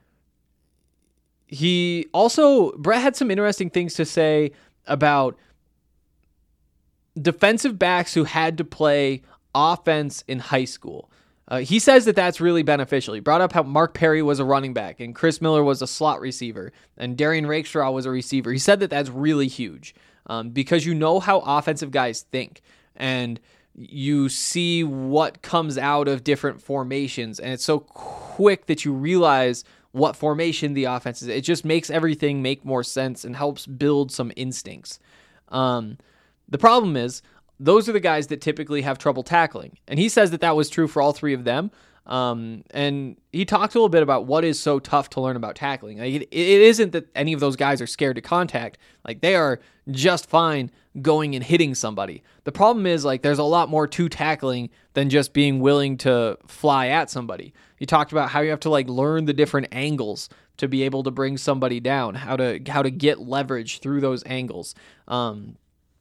he also, Brett had some interesting things to say about defensive backs who had to play offense in high school. Uh, he says that that's really beneficial. He brought up how Mark Perry was a running back and Chris Miller was a slot receiver and Darian Rakestraw was a receiver. He said that that's really huge um, because you know how offensive guys think and you see what comes out of different formations, and it's so quick that you realize what formation the offense is. It just makes everything make more sense and helps build some instincts. Um, the problem is, those are the guys that typically have trouble tackling. And he says that that was true for all three of them. Um, and he talked a little bit about what is so tough to learn about tackling. Like it, it isn't that any of those guys are scared to contact. Like they are just fine going and hitting somebody. The problem is like there's a lot more to tackling than just being willing to fly at somebody. He talked about how you have to like learn the different angles to be able to bring somebody down, how to how to get leverage through those angles. Um,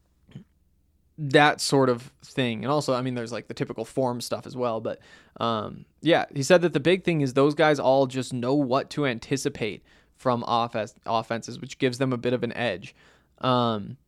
that sort of thing. And also, I mean, there's like the typical form stuff as well. But um, yeah, he said that the big thing is those guys all just know what to anticipate from offense, offenses, which gives them a bit of an edge. Um,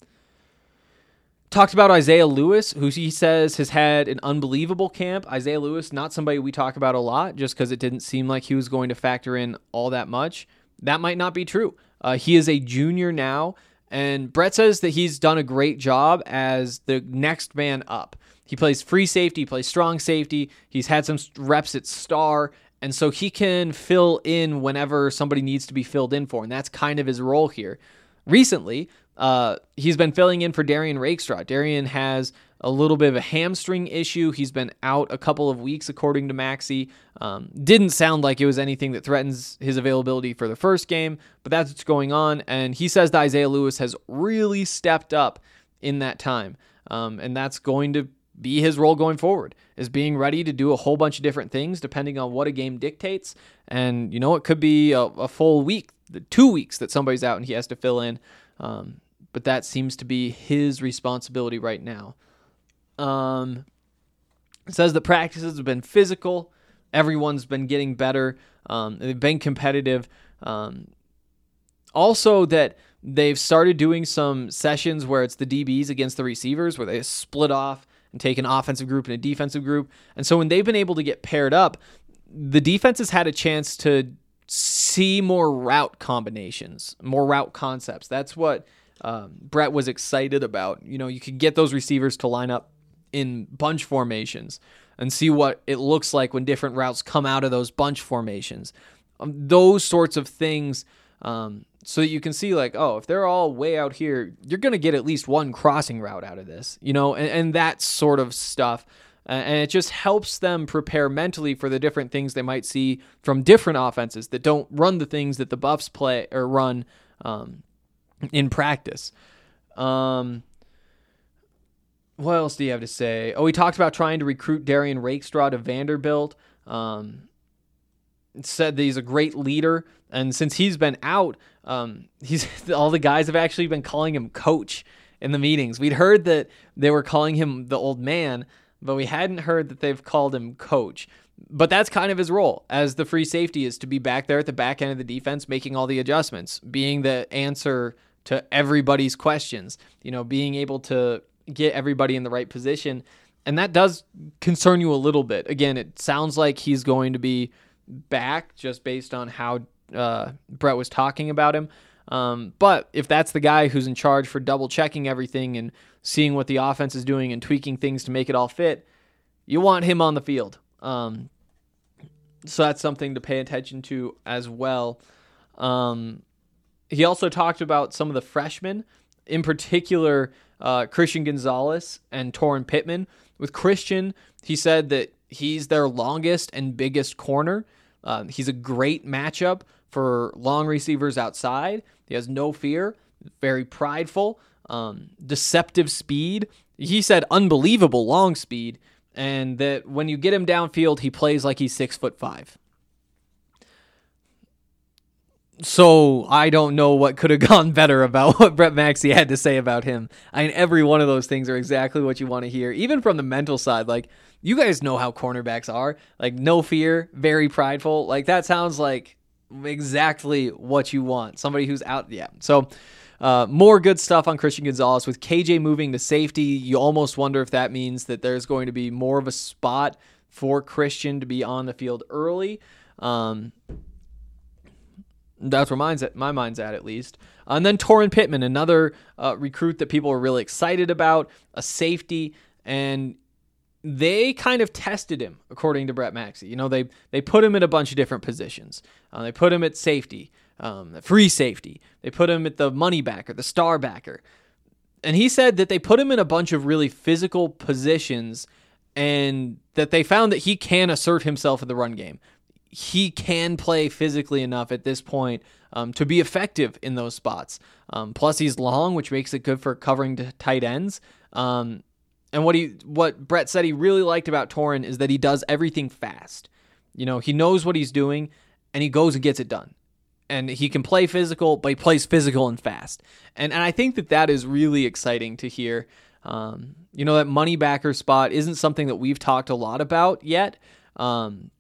talked about Isaiah Lewis, who he says has had an unbelievable camp. Isaiah Lewis, not somebody we talk about a lot just because it didn't seem like he was going to factor in all that much. That might not be true. Uh, he is a junior now. And Brett says that he's done a great job as the next man up. He plays free safety, he plays strong safety. He's had some reps at star, and so he can fill in whenever somebody needs to be filled in for, and that's kind of his role here. Recently, uh, he's been filling in for Darian Rakestraw. Darian has a little bit of a hamstring issue. He's been out a couple of weeks, according to Maxey. Um, didn't sound like it was anything that threatens his availability for the first game, but that's what's going on. And he says that Isaiah Lewis has really stepped up in that time. Um, and that's going to be his role going forward, is being ready to do a whole bunch of different things depending on what a game dictates. And, you know, it could be a, a full week, the two weeks that somebody's out and he has to fill in. Um, but that seems to be his responsibility right now. Um, it says that practices have been physical. Everyone's been getting better. Um, they've been competitive. Um, also that they've started doing some sessions where it's the D Bs against the receivers, where they split off and take an offensive group and a defensive group. And so when they've been able to get paired up, the defense has had a chance to see more route combinations, more route concepts. That's what um, Brett was excited about. You know, you could get those receivers to line up in bunch formations and see what it looks like when different routes come out of those bunch formations. Um, those sorts of things, um, so that you can see like, oh, if they're all way out here, you're going to get at least one crossing route out of this, you know, and, and that sort of stuff. Uh, and it just helps them prepare mentally for the different things they might see from different offenses that don't run the things that the Buffs play or run um, in practice. Um, What else do you have to say? Oh, he talked about trying to recruit Darian Rakestraw to Vanderbilt. Um, said that he's a great leader, and since he's been out, um, he's all the guys have actually been calling him coach in the meetings. We'd heard that they were calling him the old man, but we hadn't heard that they've called him coach. But that's kind of his role as the free safety, is to be back there at the back end of the defense, making all the adjustments, being the answer to everybody's questions, you know, being able to get everybody in the right position. And that does concern you a little bit. Again, it sounds like he's going to be back just based on how uh, Brett was talking about him. Um, but if that's the guy who's in charge for double checking everything and seeing what the offense is doing and tweaking things to make it all fit, you want him on the field. Um, so that's something to pay attention to as well. Um, he also talked about some of the freshmen, in particular, uh, Christian Gonzalez and Torrin Pittman. With Christian, he said that he's their longest and biggest corner. Uh, he's a great matchup for long receivers outside. He has no fear, very prideful, um, deceptive speed. He said unbelievable long speed, and that when you get him downfield, he plays like he's six foot five. So I don't know what could have gone better about what Brett Maxey had to say about him. I mean, every one of those things are exactly what you want to hear, even from the mental side. Like, you guys know how cornerbacks are. Like, no fear, very prideful. Like, that sounds like exactly what you want. Somebody who's out. Yeah. So uh, more good stuff on Christian Gonzalez. With K J moving to safety, you almost wonder if that means that there's going to be more of a spot for Christian to be on the field early. Um, that's where mine's at, my mind's at, at least. And then Torrin Pittman, another uh, recruit that people are really excited about, a safety, and they kind of tested him, according to Brett Maxey. You know, they they put him in a bunch of different positions. Uh, they put him at safety, um, free safety. They put him at the money backer, the star backer. And he said that they put him in a bunch of really physical positions and that they found that he can assert himself in the run game. He can play physically enough at this point um, to be effective in those spots. Um, plus, he's long, which makes it good for covering t- tight ends. Um, and what he, what Brett said he really liked about Torrin is that he does everything fast. You know, he knows what he's doing, and he goes and gets it done. And he can play physical, but he plays physical and fast. And and I think that that is really exciting to hear. Um, you know, that money backer spot isn't something that we've talked a lot about yet. Um,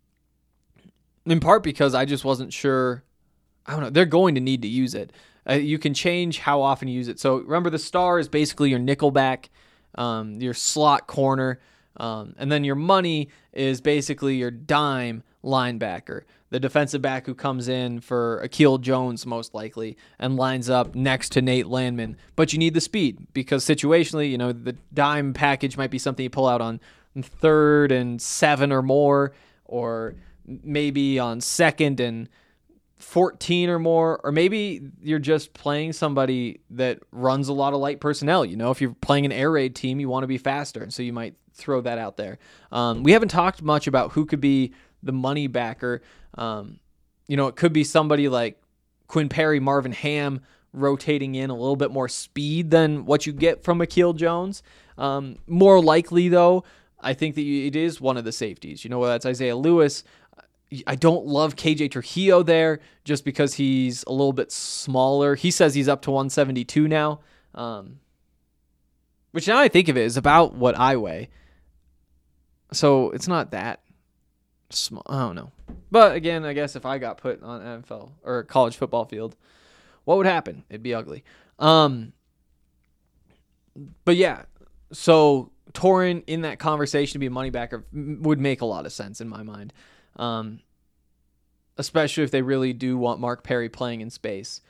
in part because I just wasn't sure. I don't know. They're going to need to use it. Uh, you can change how often you use it. So remember, the star is basically your nickel back, um, your slot corner, um, and then your money is basically your dime linebacker, the defensive back who comes in for Akil Jones most likely and lines up next to Nate Landman. But you need the speed because situationally, you know, the dime package might be something you pull out on third and seven or more, or maybe on second and fourteen or more, or maybe you're just playing somebody that runs a lot of light personnel. You know, if you're playing an air raid team, you want to be faster, and so you might throw that out there. Um, we haven't talked much about who could be the money backer. Um, you know, it could be somebody like Quinn Perry, Marvin Ham, rotating in a little bit more speed than what you get from Akil Jones. Um, more likely, though, I think that it is one of the safeties. You know, whether that's Isaiah Lewis. I don't love K J Trujillo there just because he's a little bit smaller. He says he's up to one seventy-two now, um, which now I think of it is about what I weigh. So it's not that small. I don't know. But again, I guess if I got put on N F L or college football field, what would happen? It'd be ugly. Um, but yeah, so Torrin in that conversation to be a money backer would make a lot of sense in my mind. Um, especially if they really do want Mark Perry playing in space.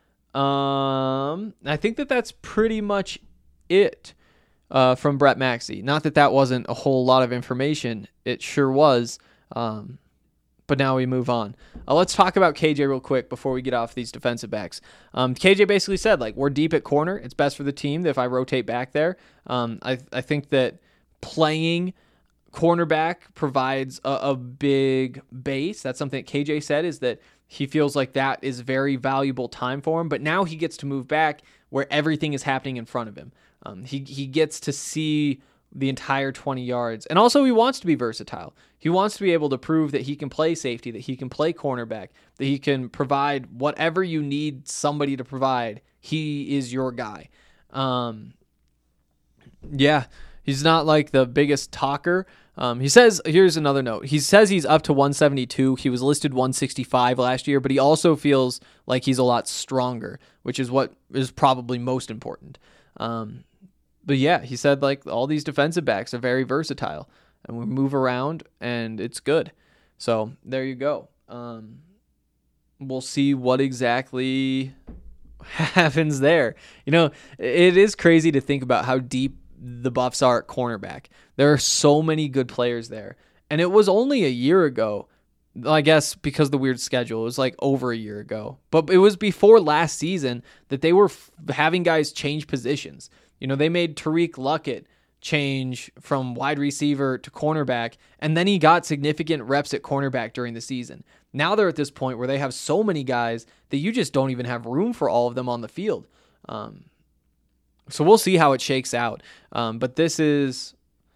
Um, I think that that's pretty much it uh, from Brett Maxey. Not that that wasn't a whole lot of information. It sure was. Um, but now we move on. Uh, let's talk about K J real quick before we get off these defensive backs. Um, K J basically said, like, we're deep at corner. It's best for the team if I rotate back there. Um, I, I think that playing cornerback provides a, a big base. That's something that K J said, is that he feels like that is very valuable time for him. But now he gets to move back where everything is happening in front of him. Um, he he gets to see the entire twenty yards. And also he wants to be versatile. He wants to be able to prove that he can play safety, that he can play cornerback, that he can provide whatever you need somebody to provide. He is your guy. Um, yeah, he's not like the biggest talker. Um, he says, here's another note. He says he's up to one seventy-two. He was listed one sixty-five last year, but he also feels like he's a lot stronger, which is what is probably most important. Um, but yeah, he said like all these defensive backs are very versatile and we move around and it's good. So there you go. Um, we'll see what exactly happens there. You know, it is crazy to think about how deep the Buffs are at cornerback. There are so many good players there. And it was only a year ago, I guess because of the weird schedule, it was like over a year ago. But it was before last season that they were f- having guys change positions. You know, they made Tariq Luckett change from wide receiver to cornerback, and then he got significant reps at cornerback during the season. Now they're at this point where they have so many guys that you just don't even have room for all of them on the field. Um, So we'll see how it shakes out. Um, but this is,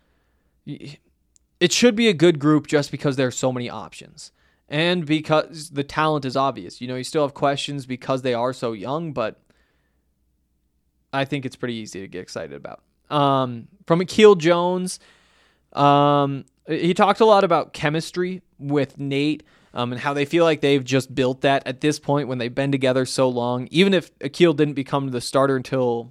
it should be a good group just because there are so many options. And because the talent is obvious. You know, you still have questions because they are so young, but I think it's pretty easy to get excited about. Um, from Akil Jones, um, he talked a lot about chemistry with Nate. um, and how they feel like they've just built that at this point when they've been together so long. Even if Akil didn't become the starter until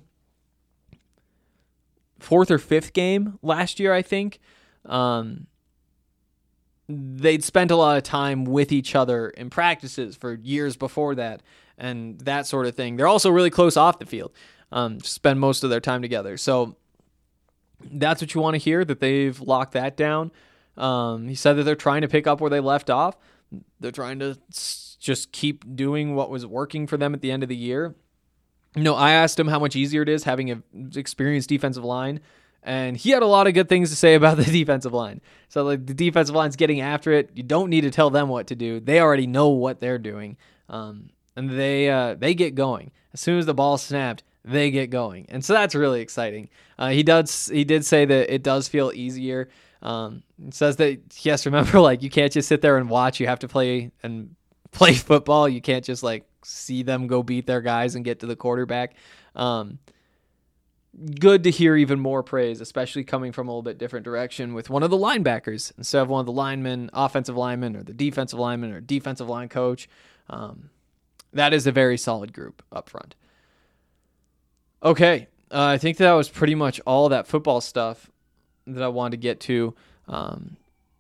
fourth or fifth game last year, I think, um, they'd spent a lot of time with each other in practices for years before that and that sort of thing. They're also really close off the field, um, spend most of their time together. So that's what you want to hear, that they've locked that down. Um, he said that they're trying to pick up where they left off. They're trying to s- just keep doing what was working for them at the end of the year. You know, I asked him how much easier it is having an experienced defensive line, and he had a lot of good things to say about the defensive line. So, like, the defensive line's getting after it. You don't need to tell them what to do. They already know what they're doing, um, and they uh, they get going. As soon as the ball snapped, they get going, and so that's really exciting. Uh, he does he did say that it does feel easier. Um, he says that, yes, remember, like, you can't just sit there and watch. You have to play and play football. You can't just, like, see them go beat their guys and get to the quarterback. Um, good to hear even more praise, especially coming from a little bit different direction with one of the linebackers instead of one of the linemen, offensive linemen, or the defensive lineman or defensive line coach. Um, that is a very solid group up front. Okay, uh, I think that was pretty much all that football stuff that I wanted to get to. Um,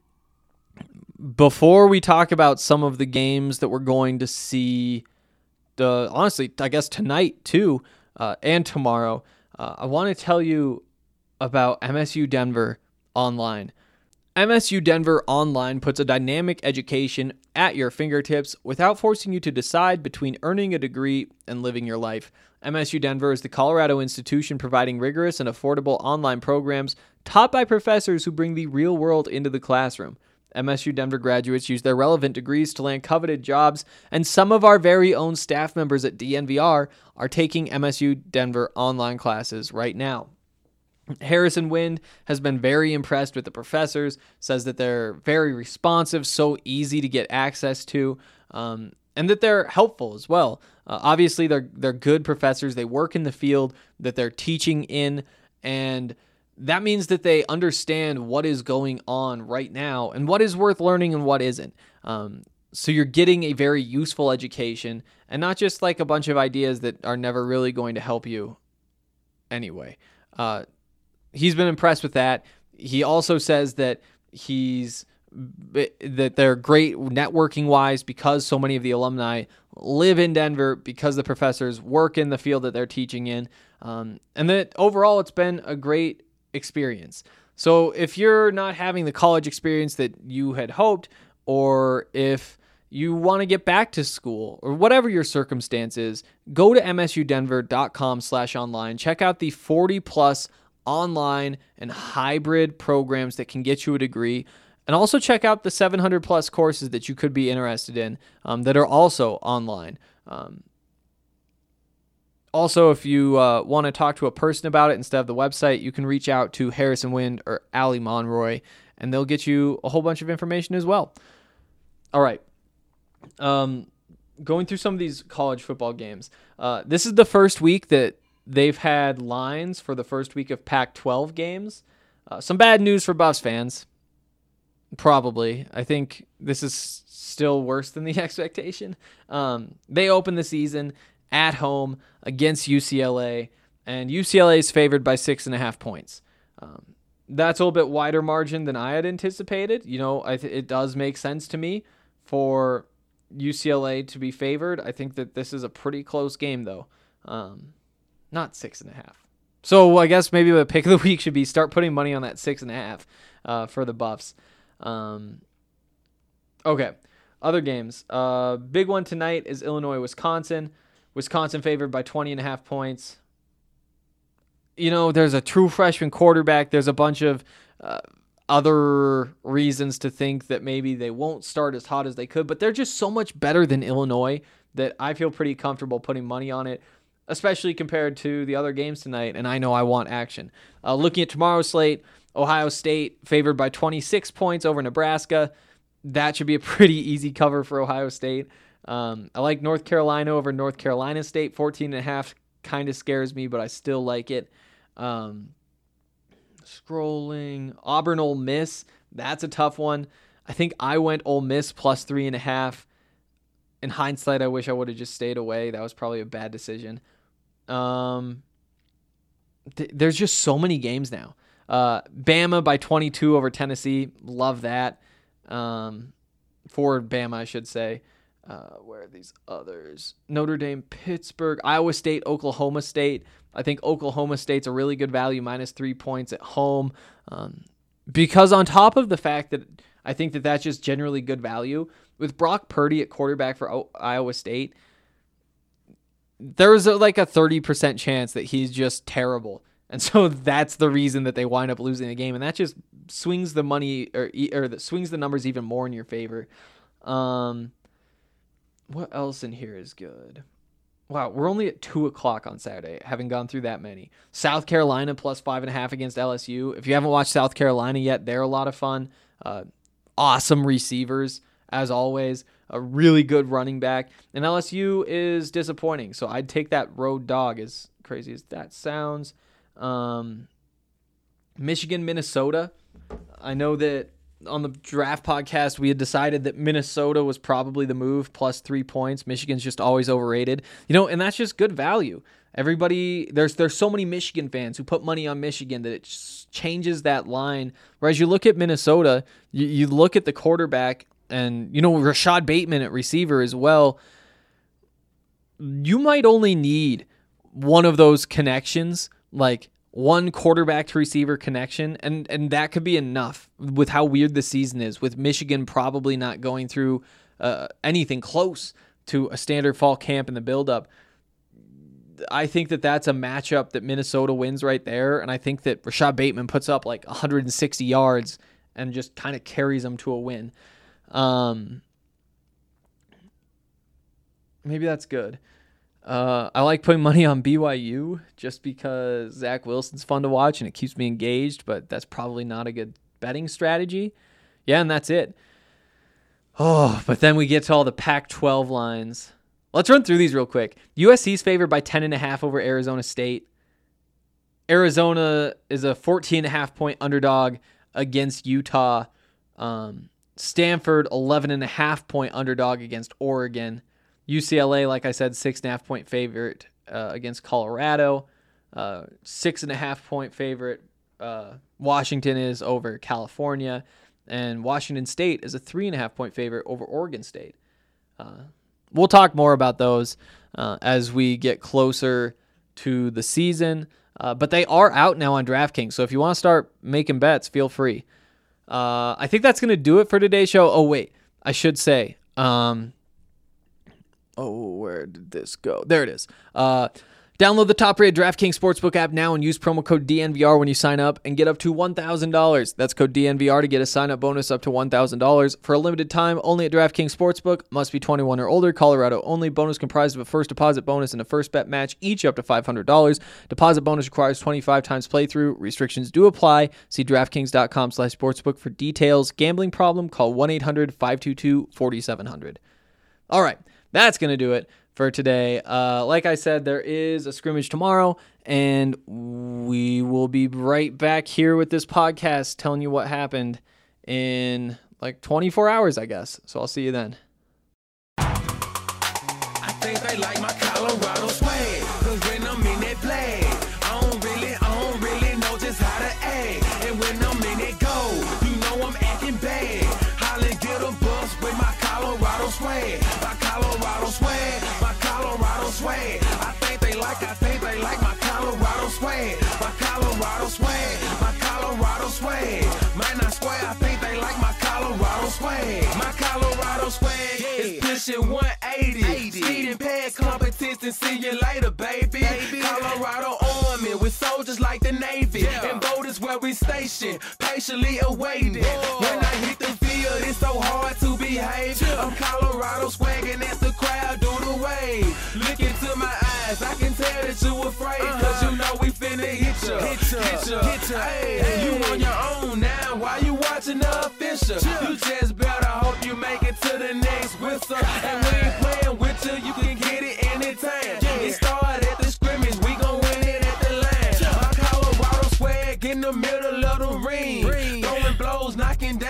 before we talk about some of the games that we're going to see, Uh, honestly, I guess tonight too, uh, and tomorrow, uh, I want to tell you about M S U Denver Online. M S U Denver Online puts a dynamic education at your fingertips without forcing you to decide between earning a degree and living your life. M S U Denver is the Colorado institution providing rigorous and affordable online programs taught by professors who bring the real world into the classroom. M S U Denver graduates use their relevant degrees to land coveted jobs, and some of our very own staff members at D N V R are taking M S U Denver online classes right now. Harrison Wind has been very impressed with the professors, says that they're very responsive, so easy to get access to, um, and that they're helpful as well. Uh, obviously, they're they're good professors. They work in the field that they're teaching in, and that means that they understand what is going on right now and what is worth learning and what isn't. Um, so you're getting a very useful education and not just like a bunch of ideas that are never really going to help you anyway. Uh, he's been impressed with that. He also says that he's that they're great networking wise because so many of the alumni live in Denver, because the professors work in the field that they're teaching in, um, and that overall it's been a great experience. So if you're not having the college experience that you had hoped, or if you want to get back to school, or whatever your circumstance is, go to msudenver.com slash online. Check out the forty plus online and hybrid programs that can get you a degree. And also check out the seven hundred plus courses that you could be interested in um, that are also online. Um, Also, if you uh, want to talk to a person about it instead of the website, you can reach out to Harrison Wind or Ali Monroy, and they'll get you a whole bunch of information as well. All right. Um, going through some of these college football games. Uh, this is the first week that they've had lines for the first week of Pac twelve games. Uh, some bad news for Buffs fans. Probably. I think this is still worse than the expectation. Um, they open the season at home against U C L A, and U C L A is favored by six and a half points. Um, that's a little bit wider margin than I had anticipated. You know, I th- it does make sense to me for U C L A to be favored. I think that this is a pretty close game, though. Um, not six and a half. So I guess maybe the pick of the week should be start putting money on that six and a half uh, for the Buffs. Um, okay, other games. Uh, big one tonight is Illinois-Wisconsin. Wisconsin favored by twenty and a half points. You know, there's a true freshman quarterback. There's a bunch of uh, other reasons to think that maybe they won't start as hot as they could, but they're just so much better than Illinois that I feel pretty comfortable putting money on it, especially compared to the other games tonight, and I know I want action. Uh, looking at tomorrow's slate, Ohio State favored by twenty-six points over Nebraska. That should be a pretty easy cover for Ohio State. Um, I like North Carolina over North Carolina State. fourteen and a half kind of scares me, but I still like it. Um, scrolling. Auburn Ole Miss. That's a tough one. I think I went Ole Miss plus three and a half. In hindsight, I wish I would have just stayed away. That was probably a bad decision. Um, th- there's just so many games now. Uh, Bama by twenty-two over Tennessee. Love that. Um, for Bama, I should say. Uh, where are these others? Notre Dame, Pittsburgh, Iowa State, Oklahoma State. I think Oklahoma State's a really good value, minus three points at home. Um, because on top of the fact that I think that that's just generally good value, with Brock Purdy at quarterback for o- Iowa State, there's a, like a thirty percent chance that he's just terrible. And so that's the reason that they wind up losing the game. And that just swings the money or, or that swings the numbers even more in your favor. Um, what else in here is good? Wow, we're only at two o'clock on Saturday, having gone through that many. South Carolina plus five and a half against L S U. If you haven't watched South Carolina yet, they're a lot of fun. Uh, awesome receivers, as always. A really good running back. And L S U is disappointing, so I'd take that road dog, as crazy as that sounds. Um, Michigan, Minnesota. I know that on the draft podcast, we had decided that Minnesota was probably the move, plus three points. Michigan's just always overrated, you know, and that's just good value. Everybody, there's there's so many Michigan fans who put money on Michigan that it just changes that line. Whereas you look at Minnesota, you, you look at the quarterback, and you know Rashad Bateman at receiver as well. You might only need one of those connections, like one quarterback to receiver connection, and, and that could be enough with how weird the season is, with Michigan probably not going through uh, anything close to a standard fall camp in the buildup. I think that that's a matchup that Minnesota wins right there, and I think that Rashad Bateman puts up like one hundred sixty yards and just kind of carries them to a win. Um, maybe that's good. Uh, I like putting money on B Y U just because Zach Wilson's fun to watch and it keeps me engaged, but that's probably not a good betting strategy. Yeah, and that's it. Oh, but then we get to all the Pac twelve lines. Let's run through these real quick. U S C's favored by ten and a half over Arizona State. Arizona is a fourteen and a half point underdog against Utah. Um, Stanford, eleven and a half point underdog against Oregon. U C L A, like I said, six and a half point favorite uh, against Colorado. Uh, six and a half point favorite. Uh, Washington is over California, and Washington State is a three and a half point favorite over Oregon State. Uh, we'll talk more about those uh, as we get closer to the season, uh, but they are out now on DraftKings. So if you want to start making bets, feel free. Uh, I think that's going to do it for today's show. Oh wait, I should say. Um, Oh, where did this go? There it is. Uh, download the top-rated DraftKings Sportsbook app now and use promo code D N V R when you sign up and get up to one thousand dollars. That's code D N V R to get a sign-up bonus up to one thousand dollars. For a limited time, only at DraftKings Sportsbook. Must be twenty-one or older. Colorado only. Bonus comprised of a first deposit bonus and a first bet match, each up to five hundred dollars. Deposit bonus requires twenty-five times playthrough. Restrictions do apply. See DraftKings.com slash sportsbook for details. Gambling problem? Call one eight hundred five two two four seven zero zero. All right. That's going to do it for today. Uh, like I said, there is a scrimmage tomorrow, and we will be right back here with this podcast telling you what happened in like twenty-four hours, I guess. So I'll see you then. I think they like my Colorado swag, cause when I'm in that flag, I don't really, I don't really know just how to act. And when I'm in that gold, you know I'm acting bad. Holly get a bus with my Colorado swag. My Colorado swag, my Colorado swag. I think they like, I think they like my Colorado swag. My Colorado swag, my Colorado swag. Might not swear, I think they like my Colorado swag. My Colorado swag is pushing one eighty. Speeding past competition, see you later, baby. baby. Colorado Army with soldiers like the Navy. Yeah. And voters where we station, patiently awaiting. Whoa. When I hit the field, it's so hard to behave. Yeah. I'm Colorado swagging as the crowd do the wave. Look into my eyes, I can tell that you afraid. Uh-huh. Cause you know we finna hit ya. Hit ya, hit ya, hit ya. Hey, hey. You on your own now, why you watching the official? Yeah. You just better hope you make it to the next whistle. And we ain't playing with you, you can get it anytime. Yeah. It started at the scrimmage, we gon' win it at the line. Yeah. My Colorado swag in the middle of the ring. ring. Throwing blows, knocking down ten.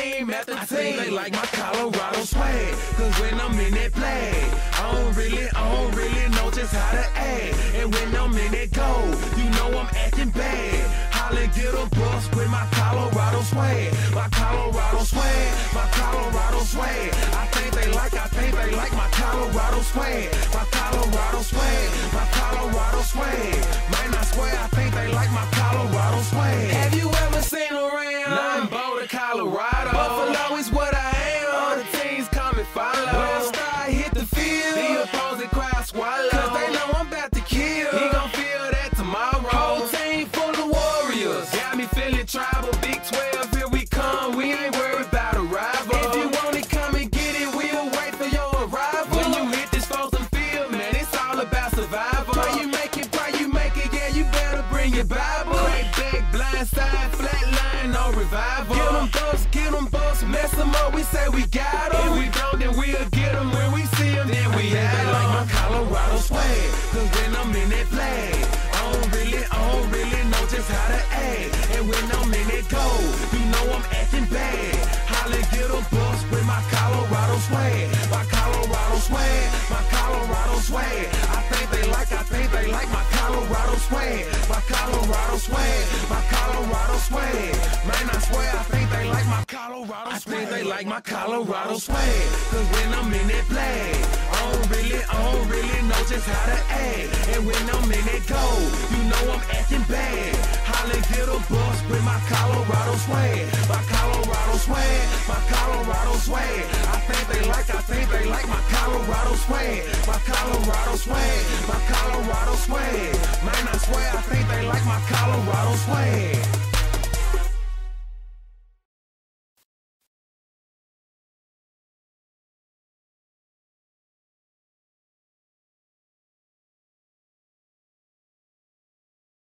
team after team. I think they like my Colorado swag, cause when I'm in that play, I don't really, I don't really know just how to act. And when I'm in that goal, you know I'm acting bad. Holla, get a bus with my Colorado swag, my Colorado swag, my Colorado swag. I think they like, I think they like my Colorado swag, my Colorado swag, my Colorado swag. Man, I swear, I think they like my Colorado swag. Have you ever seen around? Nah, I'm Boulder, Colorado. Buffalo is what I am. All the teams come and follow. When I start hit the field, the opposing crowd swallow. Cause they know I'm about to kill. He gon' feel that tomorrow. Whole team full of warriors. Got me feeling tribal. Big twelve, here we come. We ain't worried about a rival. If you want it, come and get it. We'll wait for your arrival. When you hit this Folsom field, man, it's all about survival. Pray you make it, pray you make it. Yeah, you better bring your Bible. Crack back, blind side, flat line, no revival. Get them thugs, get them busts, mess them up. We say we got them. If we don't, then we'll get them. When we see them, then we have them. Like my Colorado swag, cause when I'm in that flag, I don't really, I don't really know just how to act. And when I'm in that goal, you know I'm acting bad. Holla, get a bus with my Colorado swag, my Colorado swag, my Colorado swag. I think they like, I think they like my Colorado swag, my Colorado swag, my Colorado swag. Man, I swear, I think they like my Colorado swag. I think they like my Colorado swag, cause when I'm in that flag, I don't really, I don't really know just how to act. And when I'm in that goal, you know I'm acting bad. Holla, get a bus with my Colorado swag, my Colorado swag, my Colorado swag. I think they like, I think they like my Colorado swag, my Colorado swag, my Colorado swag. Man, I swear, I think they like my Colorado swag.